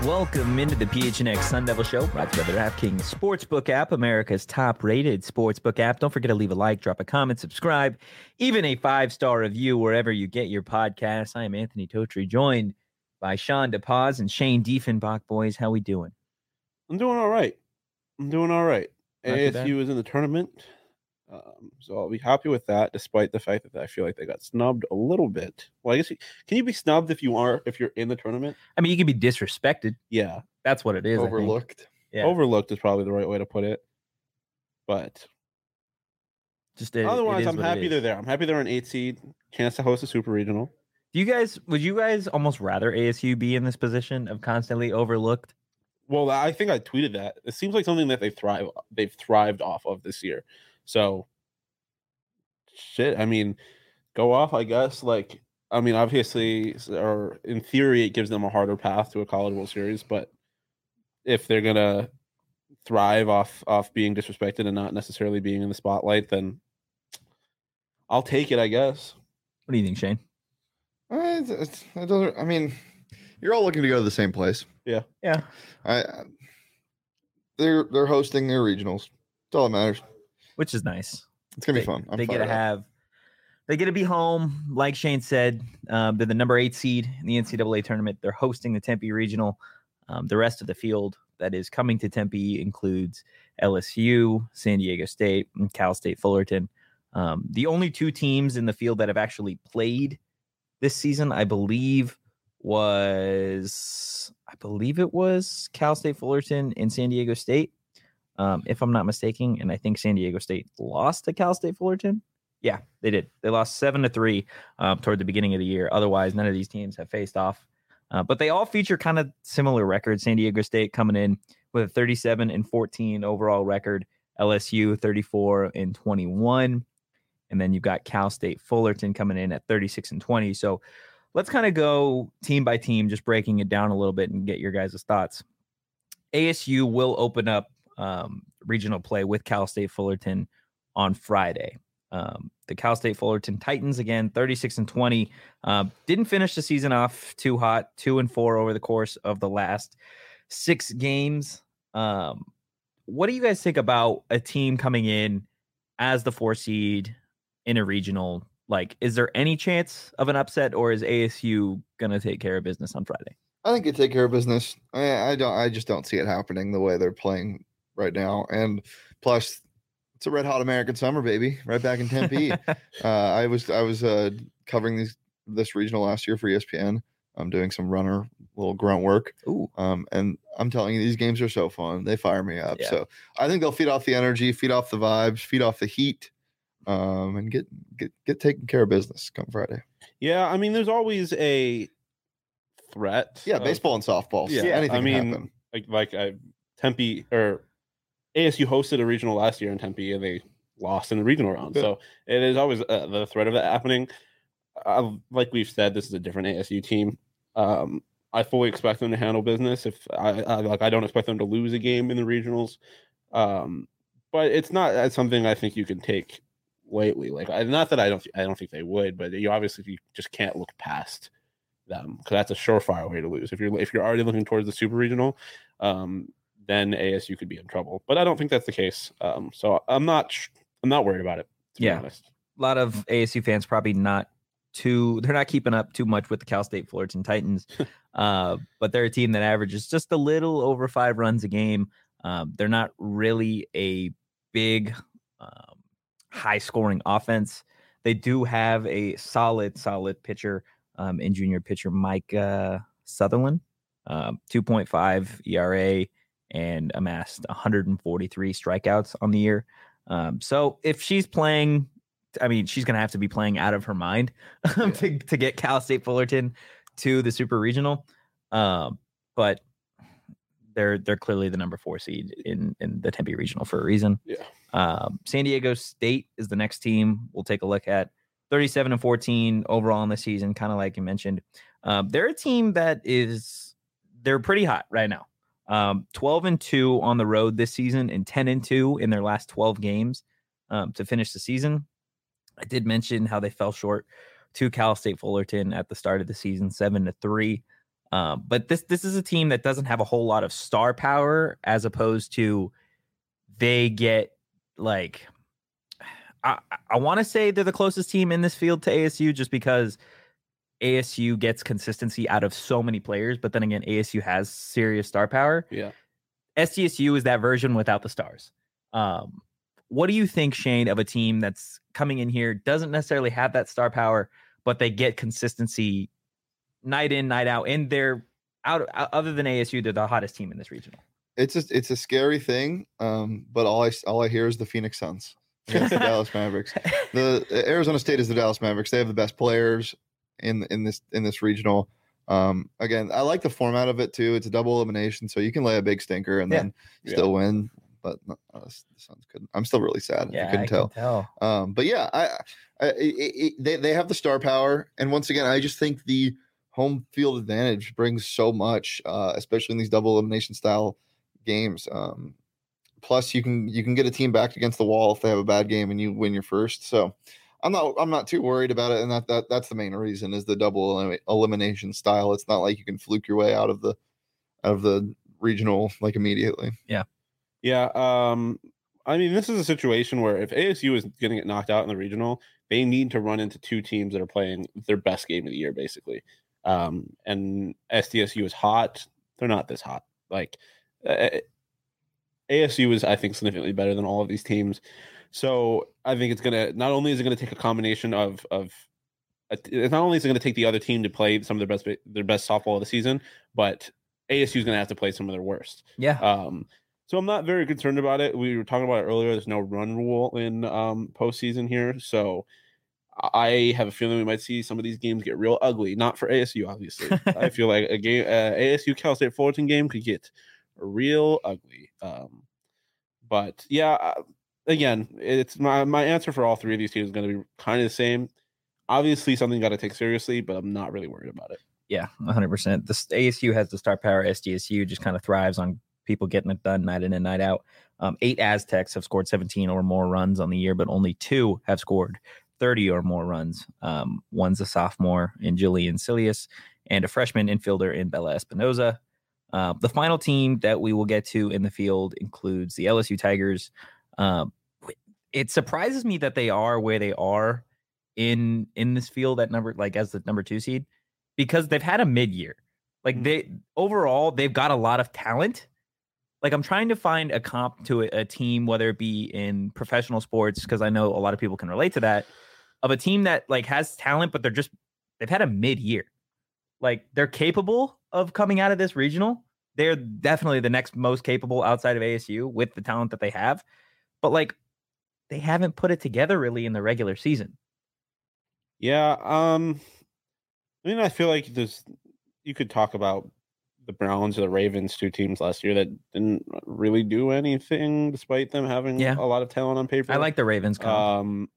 Welcome into the PHNX Sun Devil Show, brought to you by the DraftKings Sportsbook app, America's top-rated sportsbook app. Don't forget to leave a like, drop a comment, subscribe, even a 5-star review wherever you get your podcasts. I am Anthony Totri, joined by Sean DePaz and Shane Diefenbach. Boys, how we doing? I'm doing all right. Not too bad. ASU is in the tournament, so I'll be happy with that, despite the fact that I feel like they got snubbed a little bit. Well, I guess can you be snubbed if you're in the tournament? I mean, you can be disrespected. Yeah, That's what it is. Overlooked. Yeah. overlooked is probably the right way to put it. But otherwise, I'm happy they're there. I'm happy they're an 8 seed, chance to host a super regional. Would you guys almost rather ASU be in this position of constantly overlooked? Well, I think I tweeted that. It seems like something that they've thrived off of this year. So, shit. I mean, go off, I guess. Obviously, or in theory, it gives them a harder path to a College World Series. But if they're gonna thrive off being disrespected and not necessarily being in the spotlight, then I'll take it, I guess. What do you think, Shane? It doesn't. I mean, you're all looking to go to the same place. Yeah. They're hosting their regionals. That's all that matters. Which is nice. It's gonna be fun. They get to be home, like Shane said. They're the number 8 seed in the NCAA tournament. They're hosting the Tempe Regional. The rest of the field that is coming to Tempe includes LSU, San Diego State, and Cal State Fullerton. The only 2 teams in the field that have actually played this season, I believe it was Cal State Fullerton and San Diego State, if I'm not mistaken. And I think San Diego State lost to Cal State Fullerton. Yeah, they did. They lost 7-3 toward the beginning of the year. Otherwise, none of these teams have faced off. But they all feature kind of similar records. San Diego State coming in with a 37-14 overall record. LSU 34-21. And then you've got Cal State Fullerton coming in at 36-20. So let's kind of go team by team, just breaking it down a little bit and get your guys' thoughts. ASU will open up regional play with Cal State Fullerton on Friday. The Cal State Fullerton Titans, again, 36-20. Didn't finish the season off too hot, 2-4 over the course of the last 6 games. What do you guys think about a team coming in as the 4 seed in a regional? Like, is there any chance of an upset, or is ASU going to take care of business on Friday? I think you take care of business. I just don't see it happening the way they're playing right now. And plus, it's a red hot American summer, baby, right back in Tempe. I was covering this regional last year for ESPN. I'm doing some little grunt work. Ooh. And I'm telling you, these games are so fun. They fire me up. Yeah. So I think they'll feed off the energy, feed off the vibes, feed off the heat, and get taken care of business come Friday. Yeah, I mean, there's always a threat. Yeah, baseball and softball. Yeah, anything can happen. Tempe or ASU hosted a regional last year in Tempe, and they lost in the regional round. Yeah. So it is always the threat of that happening. Like we've said, this is a different ASU team. I fully expect them to handle business. If I don't expect them to lose a game in the regionals, but it's not something I think you can take lightly. Not that I don't think they would, but you just can't look past them, because that's a surefire way to lose. If you're already looking towards the super regional, then ASU could be in trouble. But I don't think that's the case. So I'm not worried about it, to be honest. A lot of ASU fans probably they're not keeping up too much with the Cal State Fullerton Titans, but they're a team that averages just a little over 5 runs a game. They're not really a big, high-scoring offense. They do have a solid pitcher in junior pitcher Mike Sutherland, 2.5 ERA, and amassed 143 strikeouts on the year. So if she's playing, I mean, she's going to have to be playing out of her mind to get Cal State Fullerton to the super regional. But they're clearly the number 4 seed in the Tempe regional for a reason. Yeah. San Diego State is the next team we'll take a look at. 37-14 overall in the season, kind of like you mentioned. They're a team they're pretty hot right now. 12-2 on the road this season and 10-2 in their last 12 games to finish the season. I did mention how they fell short to Cal State Fullerton at the start of the season, 7-3. But this is a team that doesn't have a whole lot of star power, as opposed to they get like I want to say they're the closest team in this field to ASU, just because ASU gets consistency out of so many players. But then again, ASU has serious star power. Yeah. SDSU is that version without the stars. What do you think, Shane, of a team that's coming in here, doesn't necessarily have that star power, but they get consistency night in, night out, and they're other than ASU, they're the hottest team in this regional? It's a scary thing, but all I hear is the Phoenix Suns against the Dallas Mavericks. The Arizona State is the Dallas Mavericks. They have the best players in this regional. Again, I like the format of it too. It's a double elimination, so you can lay a big stinker and then still win. But the Suns couldn't. I'm still really sad. Yeah, I couldn't tell. But yeah, they have the star power, and once again, I just think the home field advantage brings so much, especially in these double elimination style games. Plus, you can get a team backed against the wall if they have a bad game and you win your first. So, I'm not too worried about it, and that's the main reason is the double elimination style. It's not like you can fluke your way out of the regional like immediately. Yeah. I mean, this is a situation where if ASU is going to get knocked out in the regional, they need to run into two teams that are playing their best game of the year, basically. And SDSU is hot. They're not this hot. Like ASU is, I think, significantly better than all of these teams. So I think it's gonna not only is it gonna take a combination not only is it gonna take the other team to play some of their best softball of the season, but ASU is gonna have to play some of their worst. Yeah. So I'm not very concerned about it. We were talking about it earlier. There's no run rule in postseason here, so I have a feeling we might see some of these games get real ugly. Not for ASU, obviously. I feel like a game, ASU Cal State Fullerton game could get real ugly. But yeah, again, it's my answer for all three of these teams is going to be kind of the same. Obviously, something got to take seriously, but I'm not really worried about it. Yeah, 100%. The ASU has the star power. SDSU just kind of thrives on people getting it done night in and night out. 8 Aztecs have scored 17 or more runs on the year, but only 2 have scored 30 or more runs. One's a sophomore in Jillian Silius and a freshman infielder in Bella Espinoza. The final team that we will get to in the field includes the LSU Tigers. It surprises me that they are where they are in this field at as the number 2 seed, because they've had a mid-year. Like they've got a lot of talent. Like I'm trying to find a comp to a team, whether it be in professional sports, because I know a lot of people can relate to that, of a team that like has talent, but they've had a mid-year. Like they're capable of coming out of this regional. They're definitely the next most capable outside of ASU with the talent that they have, but like they haven't put it together really in the regular season. Yeah, I mean, I feel like you could talk about the Browns or the Ravens, 2 teams last year that didn't really do anything despite them having a lot of talent on paper. I like the Ravens comp.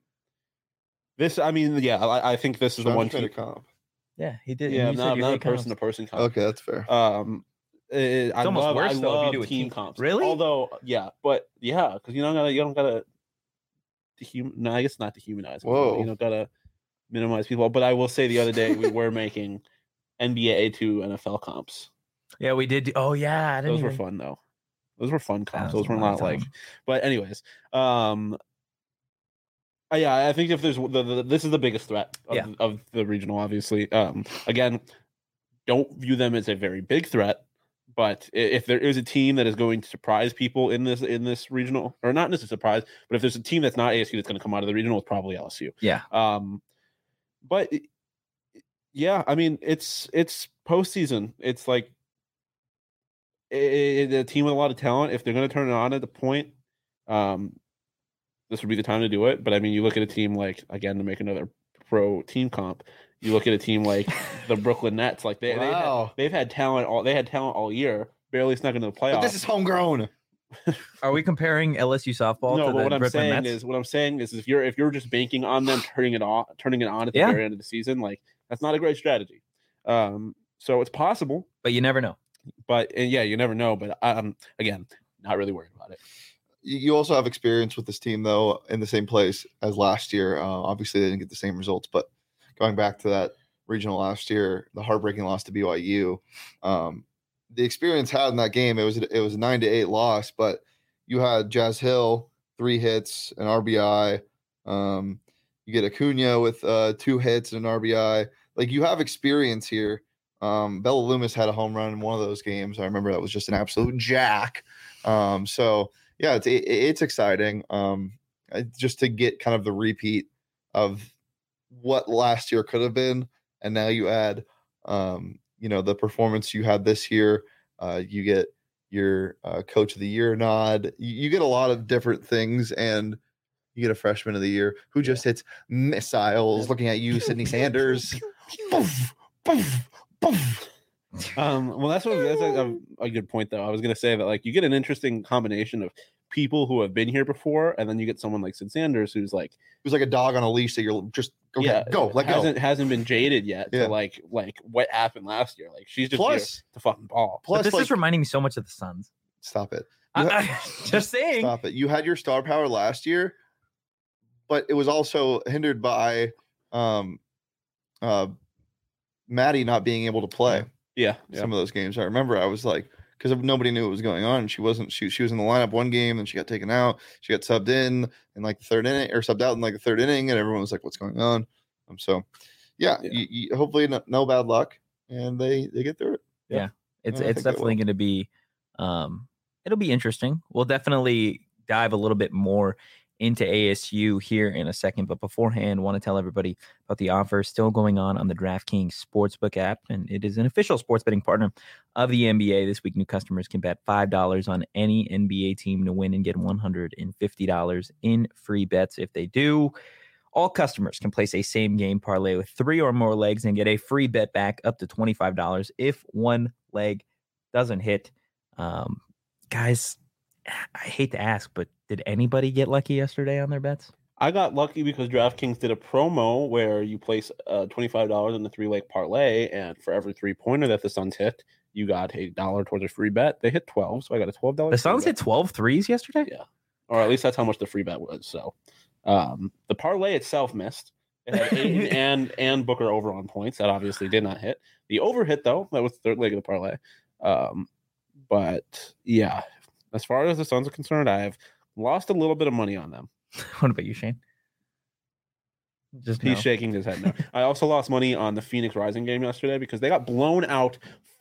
I think this is the one team. Comp. Yeah, he did. Yeah, not a person-to-person comp. Okay, that's fair. It's almost worse though if you do a team comps. Really? Although, because you don't gotta I guess not dehumanize. Whoa. You don't gotta minimize people. But I will say the other day we were making NBA to NFL comps. Yeah, we did. Oh yeah, those were fun though. Those were fun comps. Those were not like. But anyways, I think if there's this is the biggest threat of the regional. Obviously, again, don't view them as a very big threat. But if there is a team that is going to surprise people in this regional, or not necessarily surprise, but if there's a team that's not ASU that's going to come out of the regional, it's probably LSU. Yeah. But yeah, I mean, it's postseason. It's like a team with a lot of talent. If they're going to turn it on at the point, this would be the time to do it. But I mean, you look at a team like, again, to make another pro team comp, you look at a team like the Brooklyn Nets, like they've had talent all year, barely snuck into the playoffs. But this is homegrown. Are we comparing LSU softball to the Brooklyn Nets? What I'm saying is if you're just banking on them turning it on at the very end of the season, like that's not a great strategy. So it's possible, but you never know. You never know. But again, not really worried about it. You also have experience with this team though in the same place as last year. Obviously, they didn't get the same results, but going back to that regional last year, the heartbreaking loss to BYU. The experience had in that game, it was a 9-8 loss, but you had Jazz Hill 3 hits, an RBI. You get Acuna with 2 hits and an RBI. Like, you have experience here. Bella Loomis had a home run in one of those games. I remember that was just an absolute jack. So yeah, it's exciting. Just to get kind of the repeat of what last year could have been, and now you add the performance you had this year. You get your coach of the year nod. You get a lot of different things, and you get a freshman of the year who just hits missiles. Looking at you, Sydney Sanders. Poof, poof, poof. Well, that's a good point, though. I was going to say that, like, you get an interesting combination of people who have been here before, and then you get someone like Sid Sanders who's like a dog on a leash that you're just go. Hasn't been jaded yet. Yeah. To like what happened last year. Like, she's just here to fucking ball. Plus, this is reminding me so much of the Suns. Stop it. Just saying. Stop it. You had your star power last year, but it was also hindered by Maddie not being able to play. Yeah. Some of those games. I remember I was like, because nobody knew what was going on. She was in the lineup one game and she got taken out. She got subbed in like the third inning, or subbed out in like the third inning, and everyone was like, what's going on? So you hopefully no bad luck, and they get through it. Yeah. It's definitely going to be it'll be interesting. We'll definitely dive a little bit more into ASU here in a second, but beforehand, want to tell everybody about the offer still going on the DraftKings Sportsbook app, and it is an official sports betting partner of the NBA. This week, new customers can bet $5 on any NBA team to win and get $150 in free bets if they do. All customers can place a same-game parlay with 3 or more legs and get a free bet back up to $25 if one leg doesn't hit. Guys, I hate to ask, but did anybody get lucky yesterday on their bets? I got lucky because DraftKings did a promo where you place $25 in the 3-leg parlay, and for every 3-pointer that the Suns hit, you got $1 towards a free bet. They hit 12, so I got a $12. The Suns hit 12 threes yesterday? Yeah. Or at least that's how much the free bet was. So the parlay itself missed. It had Ayton and Booker over on points. That obviously did not hit. The over hit, though. That was the third leg of the parlay. But, yeah, as far as the Suns are concerned, I have lost a little bit of money on them. What about you, Shane? He's shaking his head no. I also lost money on the Phoenix Rising game yesterday because they got blown out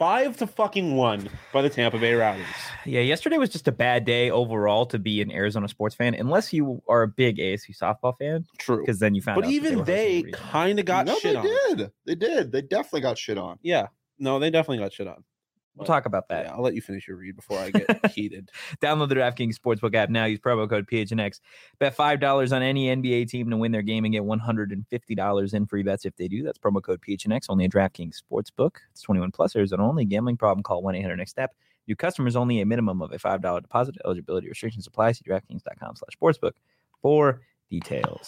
5-1 by the Tampa Bay Rowdies. Yeah, yesterday was just a bad day overall to be an Arizona sports fan, unless you are a big ASU softball fan. True, because then you found out. But even they kind of got shit on. They did. They definitely got shit on. Yeah, no, they definitely got shit on. We'll talk about that. Yeah, I'll let you finish your read before I get heated. Download the DraftKings Sportsbook app now. Use promo code PHNX. Bet $5 on any NBA team to win their game and get $150 in free bets if they do. That's promo code PHNX. Only at DraftKings Sportsbook. It's 21 plus. Arizona only. Gambling problem? Call 1-800-NEXT-STEP. New customers only. A minimum of a $5 deposit. Eligibility restrictions apply. See DraftKings.com/sportsbook for details.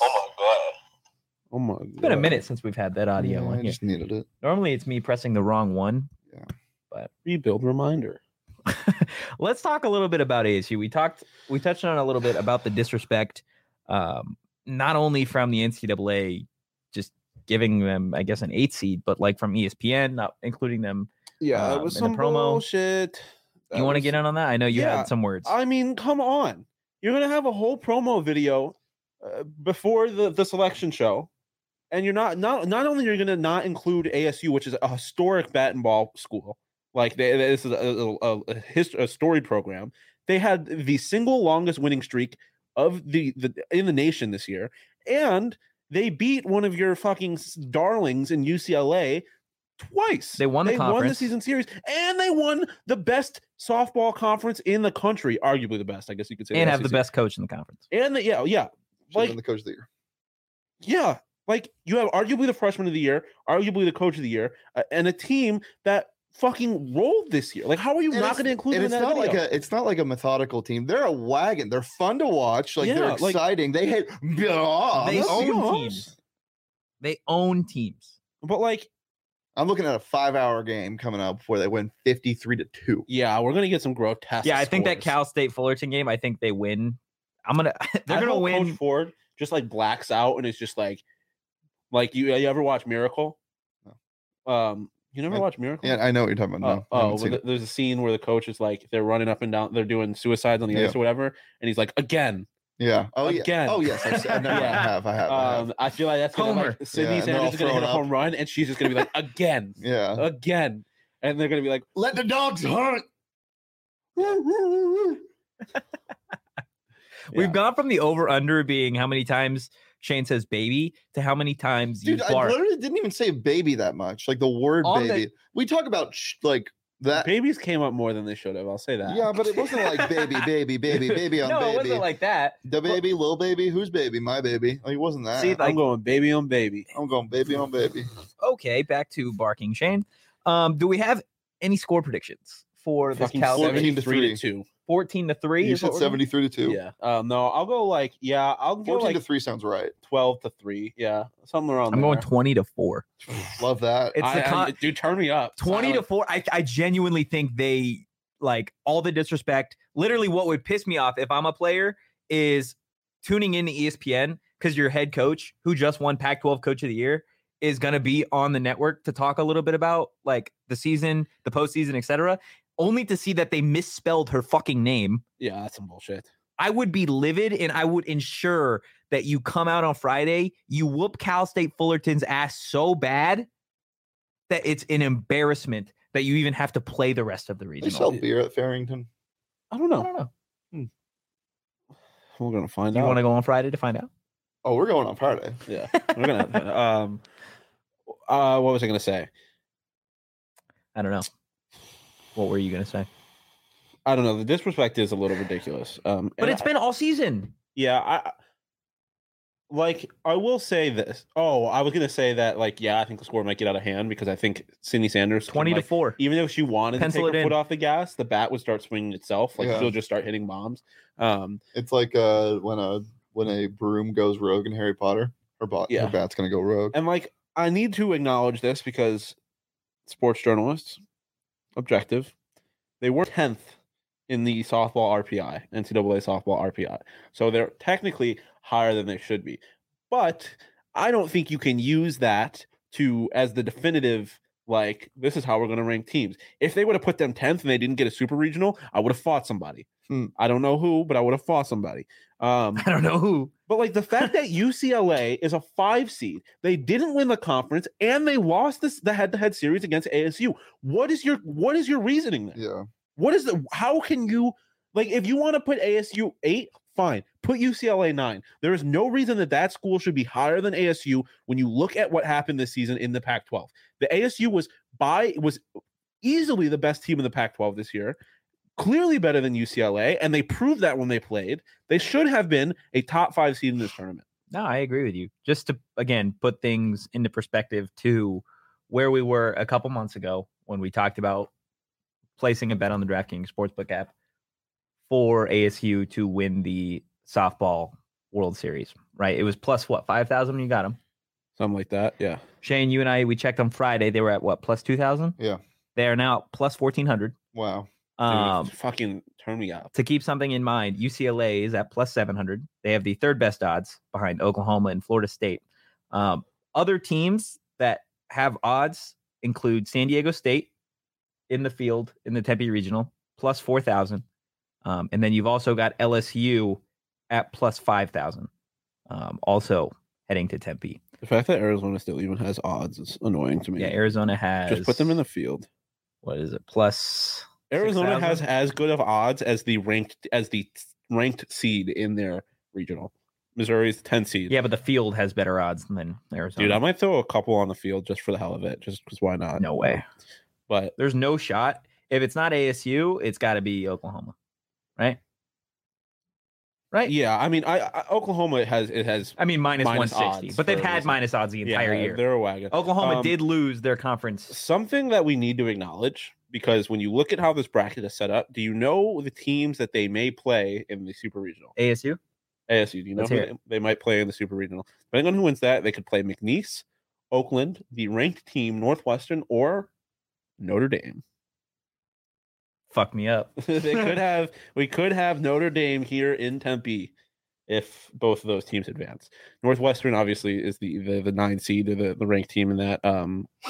Oh my god! It's been a minute since we've had that audio on here. I just needed it. Normally, it's me pressing the wrong one. Yeah. But rebuild reminder. Let's talk a little bit about ASU. We touched on a little bit about the disrespect, not only from the NCAA just giving them, I guess, an 8 seed, but like from ESPN, not including them. Yeah, it was some promo bullshit. You want to get in on that? I know you had some words. I mean, come on. You're gonna have a whole promo video before the selection show, and you're not only you're gonna not include ASU, which is a historic bat and ball school. Like this is a storied program. They had the single longest winning streak of the in the nation this year, and they beat one of your fucking darlings in UCLA twice. They won the season series, and they won the best softball conference in the country, arguably the best, I guess you could say. And have the best coach in the conference. And like the coach of the year. Yeah, like you have arguably the freshman of the year, arguably the coach of the year, and a team that fucking rolled this year. Like, how are you not going to include them in that video? It's not like a methodical team. They're a wagon. They're fun to watch. Like, they're exciting. They hit. They own teams. They own teams. But like, I'm looking at a 5-hour game coming up before they win 53-2. Yeah, we're gonna get some grotesque. Yeah, I think scores. that Cal State Fullerton game, I think they win. They're gonna win. Coach Ford just like blacks out, and it's just like you ever watch Miracle? No. You never I- watched Miracle? Yeah, I know what you're talking about. No, I haven't seen it. There's a scene where the coach is like, they're running up and down, they're doing suicides on the ice or whatever, and he's like, again. Yeah. Oh, yeah. Again. Oh, yes. I have. I have. I feel like that's gonna Homer. like Sydney Yeah, and they're all Sanders is gonna hit a throwing home run, and she's just gonna be like, again, Yeah. again, and they're gonna be like, Let the dogs hunt. We've gone from the over under being how many times Shane says baby to how many times Dude, you I bark. literally didn't even say baby that much. Like the word On the- baby. We talk about like that. babies came up more than they should have. I'll say that. Yeah, but it wasn't like baby on no, baby. it wasn't like that. The baby, little baby, whose baby? My baby. Like, it wasn't that. See, I'm going baby on baby. I'm going baby on baby. Okay, back to barking, Shane. Do we have any score predictions for this Fucking Cal 14 to 73 to 3. 2. 14-3? You is said what we're going? 73 to 2. Yeah. No, I'll go like I'll go 14 like to 3 sounds right. 12 to 3. Yeah, something around I'm there. going 20-4. Love that. It's the dude, turn me up. 20-4. I genuinely think they like all the disrespect. Literally, what would piss me off if I'm a player is tuning in to ESPN because your head coach, who just won Pac-12 Coach of the Year, is going to be on the network to talk a little bit about like the season, the postseason, etc. Only to see that they misspelled her fucking name. Yeah, that's some bullshit. I would be livid, and I would ensure that you come out on Friday, you whoop Cal State Fullerton's ass so bad that it's an embarrassment that you even have to play the rest of the They sell regional. beer at Farrington. I don't I know. don't know. We're gonna find Do you out. want to go on Friday to find out? Oh, we're going on Friday. Yeah, we're gonna. What was I gonna say? I don't know. What were you going to say? I don't know. The disrespect is a little ridiculous. But it's been all season. Yeah, I will say this. Oh, I was gonna say that I think the score might get out of hand because I think Sydney Sanders can, 20-4. even if she wanted Pencil to take it her in. foot off the gas, the bat would start swinging itself. Yeah. She'll just start hitting bombs. It's like when a broom goes rogue in Harry Potter. Her bat's gonna go rogue. And I need to acknowledge this because sports journalists, objective, they were 10th in the softball RPI, NCAA softball RPI. So they're technically higher than they should be. But I don't think you can use that as the definitive, this is how we're going to rank teams. If they would have put them 10th and they didn't get a super regional, I would have fought somebody. I don't know who, but I would have fought somebody. I don't know who. But the fact that UCLA is a 5 seed, they didn't win the conference, and they lost the head-to-head series against ASU. What is your reasoning there? Yeah. How can you if you want to put ASU 8, fine, put UCLA 9. There is no reason that school should be higher than ASU when you look at what happened this season in the Pac-12. The ASU was easily the best team in the Pac-12 this year. Clearly better than UCLA, and they proved that when they played. They should have been a top 5 seed in this tournament. No, I agree with you. Just to, again, put things into perspective to where we were a couple months ago when we talked about placing a bet on the DraftKings Sportsbook app for ASU to win the softball World Series, right? It was plus what, 5,000 when you got them? Something like that, yeah. Shane, you and I, we checked on Friday. They were at what, plus 2,000? Yeah. They are now plus 1,400. Wow. Dude, fucking turn me up. To keep something in mind, UCLA is at plus 700. They have the third best odds behind Oklahoma and Florida State. Other teams that have odds include San Diego State in the field in the Tempe Regional, plus 4,000. And then you've also got LSU at plus 5,000, also heading to Tempe. The fact that Arizona still even has odds is annoying to me. Yeah, Arizona has... Just put them in the field. What is it? Plus... Arizona 6,000? has as good of odds as the ranked seed in their regional. Missouri's 10 seed. Yeah, but the field has better odds than Arizona. Dude, I might throw a couple on the field just for the hell of it, just because why not? No way. But There's no shot. If it's not ASU, it's got to be Oklahoma, right? Right? yeah, I mean, Oklahoma has I mean, minus 160, odds but they've for a had reason. minus odds the entire year. They're a wagon. Oklahoma did lose their conference. Something that we need to acknowledge, because when you look at how this bracket is set up, do you know the teams that they may play in the super regional? ASU? ASU, do you know Let's who hear they might play in the super regional? Depending on who wins that, they could play McNeese, Oakland, the ranked team Northwestern, or Notre Dame. Fuck me up. We could have Notre Dame here in Tempe if both of those teams advance. Northwestern obviously is the 9 seed or the ranked team in that or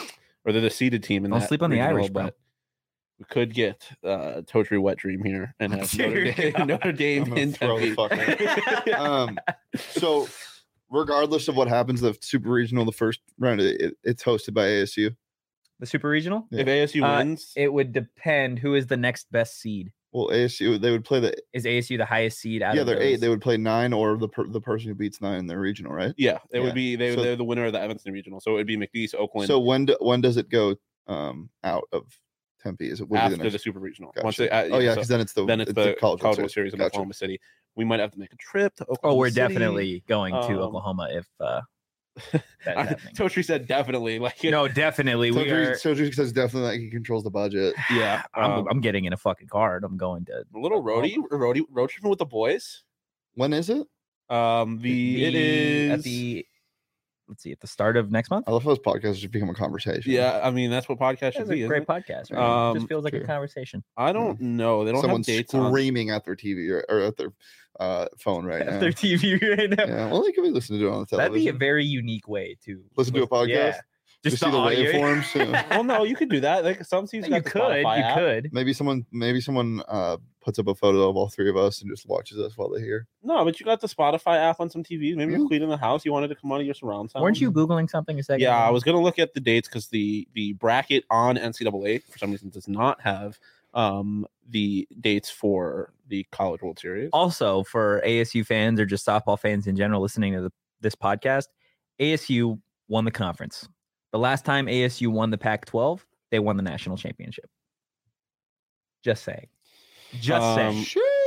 or they're the seeded team. Don't sleep on the Irish, bro. But we could get Totri wet dream here and have Notre Dame I'm gonna in throw the Tempe. So, regardless of what happens, the Super Regional, the first round, it's hosted by ASU. The Super Regional? If ASU wins, it would depend who is the next best seed. Well, ASU, they would play the. Is ASU the highest seed out of they're those? 8. They would play 9 or the person who beats 9 in their regional, right? yeah, it Yeah. would be So- they're the winner of the Evanston Regional, so it would be McNeese, Oakland. So when does it go out of Tempe? Is it would be after the next? the Super Regional. Gotcha. Once they, oh yeah, so because then it's the College World World Series in Gotcha. Oklahoma City. We might have to make a trip to Oklahoma. Oh, we're City. definitely going to Um, Oklahoma if that's happening. Totri said definitely. Like No, definitely. We are. Sojiri says definitely like he controls the budget. yeah, I'm getting in a fucking card. I'm going to a little road tripping with the boys. When is it? It is at the. Let's see, at the start of next month. I love how this podcast has become a conversation. Yeah, I mean that's what podcast should That's be. a Isn't great it? podcast, right? It just feels like true. a conversation. I don't know. They don't Someone's have dates on. screaming at their TV or at their phone right now. Their TV right now. Yeah, well, they could be listening to it on the television. That'd be a very unique way to Listen to a podcast? Yeah. Just see the audio. waveforms. Yeah. Well, no, you could do that. Like some seasons, You could. Maybe someone puts up a photo of all 3 of us and just watches us while they're here. No, but you got the Spotify app on some TVs. Maybe Yeah. you're cleaning the house. You wanted to come out of your surround sound. Weren't you Googling something a second Yeah, ago? I was gonna look at the dates because the bracket on NCAA for some reason does not have the dates for the College World Series. Also, for ASU fans or just softball fans in general listening to this podcast, ASU won the conference. The last time ASU won the Pac-12, they won the national championship. Just saying. Just saying.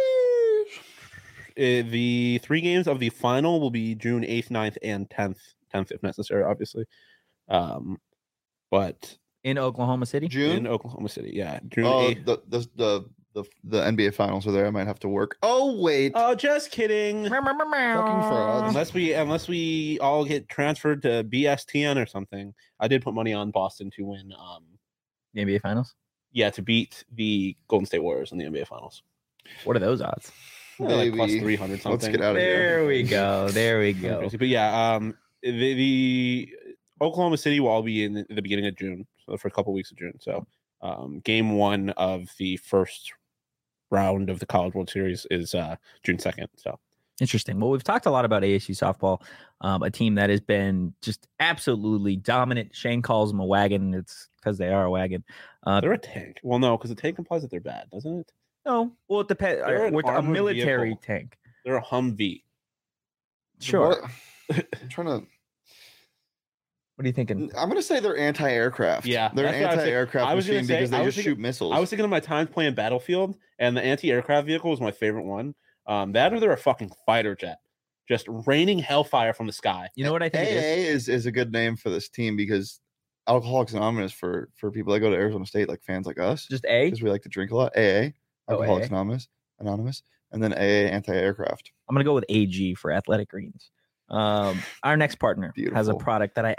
The 3 games of the final will be June 8th, 9th, and 10th if necessary, obviously. But In Oklahoma City? June. in Oklahoma City, yeah, June Oh, 8th. the NBA finals are there. I might have to work. Oh wait, Oh, just kidding. fucking frauds. Unless we all get transferred to BSTN or something. I did put money on Boston to win. The NBA Finals? Yeah, to beat the Golden State Warriors in the NBA Finals. What are those odds? Like plus Maybe. 300 something. Let's get out of here. There we go. There we go. Crazy. But yeah, the Oklahoma City will all be in the beginning of June, so for a couple weeks of June. So, game 1 of the first round of the College World Series is June 2nd. So Interesting. Well, we've talked a lot about ASU softball, a team that has been just absolutely dominant. Shane calls them a wagon. It's because they are a wagon. they're a tank. Well, no, because the tank implies that they're bad, doesn't it? No, well, it depends. They're an With a armored military vehicle. tank. They're a Humvee. Sure. What? I'm trying to. What are you thinking? I'm gonna say they're anti-aircraft. Yeah, they're an that's what I was saying. anti-aircraft I was gonna machine say- because I they was just thinking- shoot missiles. I was thinking of my times playing Battlefield, and the anti-aircraft vehicle was my favorite one. That or they're a fucking fighter jet, just raining hellfire from the sky. You know what I think it is? AA is a good name for this team because Alcoholics Anonymous for people that go to Arizona State, like fans like us, Just A? because we like to drink a lot. AA, Oh, Alcoholics AA. Anonymous, and then AA anti-aircraft. I'm gonna go with AG for Athletic Greens. Our next partner has a Beautiful. product that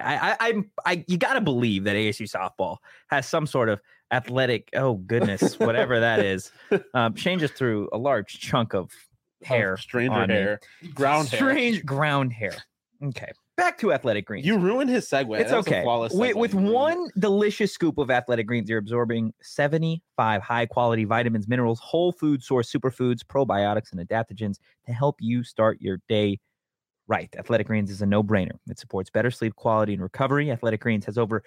I you gotta believe that ASU softball has some sort of athletic. Oh goodness, whatever that is. Shane just threw a large chunk of hair, stranger on me. hair, ground hair. strange ground hair. Okay, back to Athletic Greens. You ruined his segue. It's That was a okay. flawless With, segue. with You ruined it. one delicious scoop of Athletic Greens, you're absorbing 75 high-quality vitamins, minerals, whole food source superfoods, probiotics, and adaptogens to help you start your day right. Athletic Greens is a no-brainer. It supports better sleep quality and recovery. Athletic Greens has over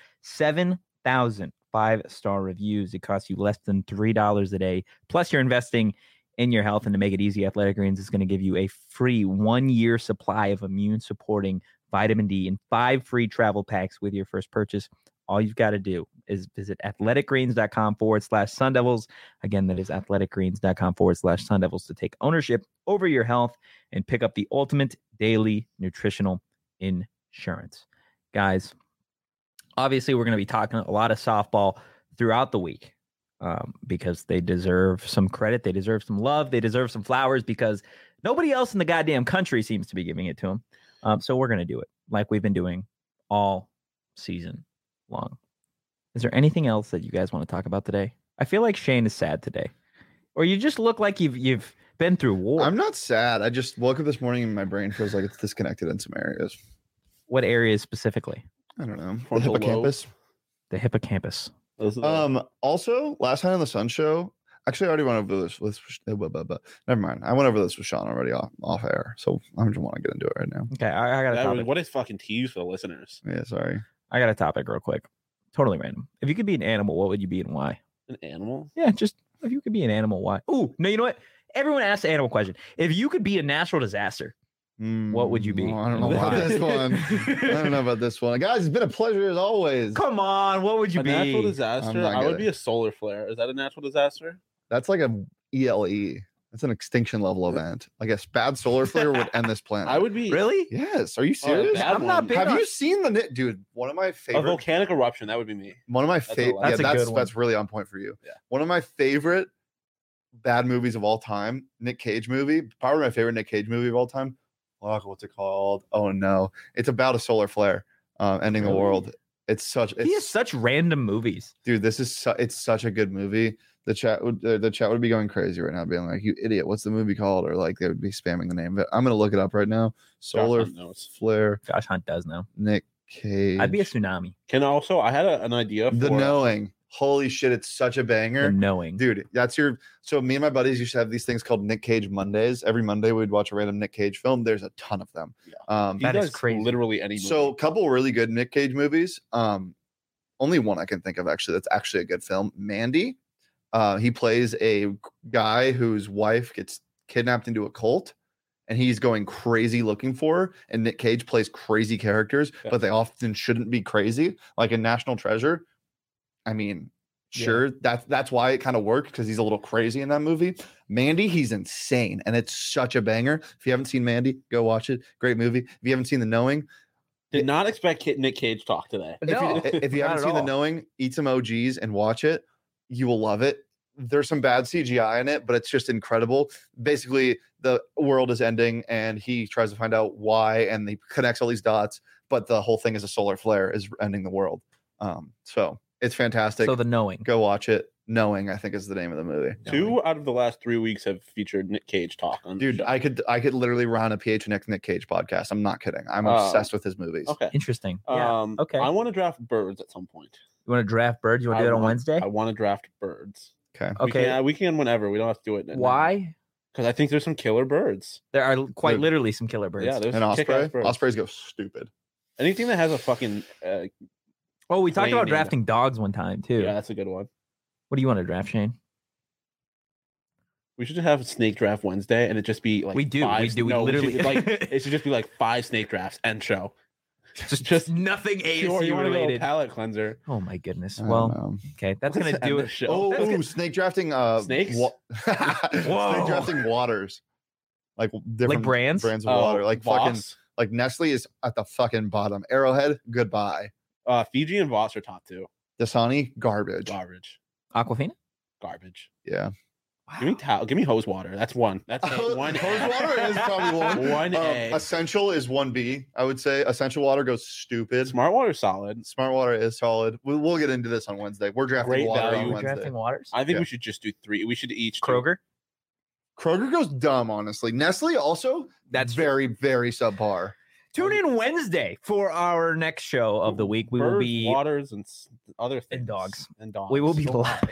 7,000 five-star reviews. It costs you less than $3 a day. Plus, you're investing in your health, and to make it easy, Athletic Greens is going to give you a free 1-year supply of immune-supporting vitamin D and 5 free travel packs with your first purchase. All you've got to do is visit athleticgreens.com/Sun Devils. Again, that is athleticgreens.com/Sun Devils to take ownership over your health and pick up the ultimate daily nutritional insurance. Guys, obviously, we're going to be talking a lot of softball throughout the week because they deserve some credit. They deserve some love. They deserve some flowers because nobody else in the goddamn country seems to be giving it to them. So we're going to do it like we've been doing all season long. Is there anything else that you guys want to talk about today? I feel like Shane is sad today, or you just look like you've been through war. I'm not sad. I just woke up this morning and my brain feels like it's disconnected in some areas. What areas specifically? I don't know. The Frontal lobe. hippocampus. The hippocampus. Those are the- Also, last night on the Sun Show, actually, I already went over this with. Never mind. I went over this with Sean already off air, so I just want to get into it right now. Okay, I got a that was, topic. what is fucking tease for the listeners? Yeah, sorry. I got a topic real quick. Totally random. If you could be an animal, what would you be and why? An animal? Yeah, just if you could be an animal, why? Oh, no, you know what? Everyone asks the animal question. If you could be a natural disaster, what would you be? I don't know about Why? this one. I don't know about this one. Guys, it's been a pleasure as always. Come on, what would you A be? natural I'm disaster? not I would gonna- be a solar flare. Is that a natural disaster? That's like a ELE. That's an extinction level event. Like a bad solar flare would end this planet. I would be Really? Yes. Are you Oh, a serious? bad I'm not one. big Have on- you seen dude? One of my a favorite. volcanic eruption. That would be me. One of my That's a favorite. lot. Yeah, That's a good that's one. that's really on point for you. Yeah. One of my favorite bad movies of all time, Nick Cage movie. Probably my favorite Nick Cage movie of all time. Oh, what's it called? Oh no, it's about a solar flare ending the Really? world. It's such. He has It's such random movies. dude. This is it's such a good movie. The chat would be going crazy right now, being like, "You idiot! What's the movie called?" Or like they would be spamming the name of it. I'm gonna look it up right now. Solar Hunt knows. flare. Josh Hunt does know. Nick Cage. I'd be a tsunami. Can also, I had an idea for The Knowing. Holy shit! It's such a banger. The knowing. Dude, that's your. So me and my buddies used to have these things called Nick Cage Mondays. Every Monday we'd watch a random Nick Cage film. There's a ton of them. Yeah. He That is does crazy. literally any movie. So a couple really good Nick Cage movies. Only one I can think of actually. That's actually a good film. Mandy. He plays a guy whose wife gets kidnapped into a cult, and he's going crazy looking for her. And Nick Cage plays crazy characters, Okay. but they often shouldn't be crazy. Like in National Treasure. I mean, Yeah. sure, that's why it kind of worked because he's a little crazy in that movie. Mandy, he's insane, and it's such a banger. If you haven't seen Mandy, go watch it. Great movie. If you haven't seen The Knowing, Did not expect Nick Cage talk today. No, if you not haven't at seen The all. Knowing, eat some OGs and watch it. You will love it. There's some bad CGI in it, but it's just incredible. Basically, the world is ending, and he tries to find out why, and he connects all these dots. But the whole thing is a solar flare is ending the world. So it's fantastic. So the knowing. Go watch it. Knowing, I think, is the name of the movie. 2 out of the last 3 weeks have featured Nick Cage talk on. the Dude, show. I could literally run a PHNX Nick Cage podcast. I'm not kidding. I'm Oh. obsessed with his movies. Okay. Interesting. Yeah. Okay. I want to draft birds at some point. You want to draft birds? You want to do it on Wednesday? I want to draft birds. Okay. Okay. We can whenever. We don't have to do it. Why? Because I think there's some killer birds. There are quite Dude. literally some killer birds. Yeah, there's And some kick-ass Osprey. birds. Ospreys go stupid. Anything that has a fucking Oh, we talked Plane about name. drafting dogs one time too. yeah, that's a good one. What do you want to draft, Shane? We should just have a snake draft Wednesday, and it just be like We do. five- We do. We no, literally should, like it should just be like 5 snake drafts and show. just nothing Or ASU you want to go related. palate cleanser? Oh my goodness. I don't Well, know. okay, that's Let's gonna end do the it. show. Oh, That's gonna- snake drafting. Snakes? Snake Whoa. drafting waters, like different brands? of water, like fucking Voss. like Nestle is at the fucking bottom. Arrowhead, goodbye. Fiji and Voss are top 2. Dasani, garbage. Garbage. Aquafina? Garbage. Yeah, Give me hose water. That's one. That's one. Hose water is probably one. One A. Essential is 1B. I would say essential water goes stupid. Smart water solid. Smart water is solid. We'll get into this on Wednesday. We're drafting Great water value. on We're Wednesday. drafting waters. I think Yeah. we should just do 3. We should each do- Kroger. Kroger goes dumb, honestly. Nestle also That's very, very subpar. Tune in Wednesday for our next show of the week. We will Birds, be waters and other things. dogs. And dogs. we will be So live.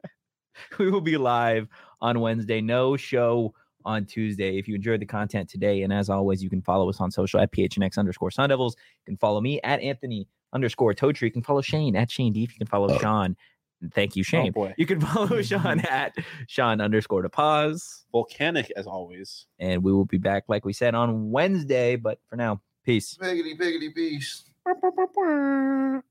We will be live on Wednesday. No show on Tuesday. If you enjoyed the content today, and as always, you can follow us on social at PHNX_Sun Devils. You can follow me at Anthony_Totri. You can follow Shane at Shane Deep. You can follow Sean. And thank you, Shane. Oh boy. You can follow Sean at Sean_DePaz. Volcanic as always. And we will be back, like we said, on Wednesday. But for now, peace. Biggity, biggity, peace.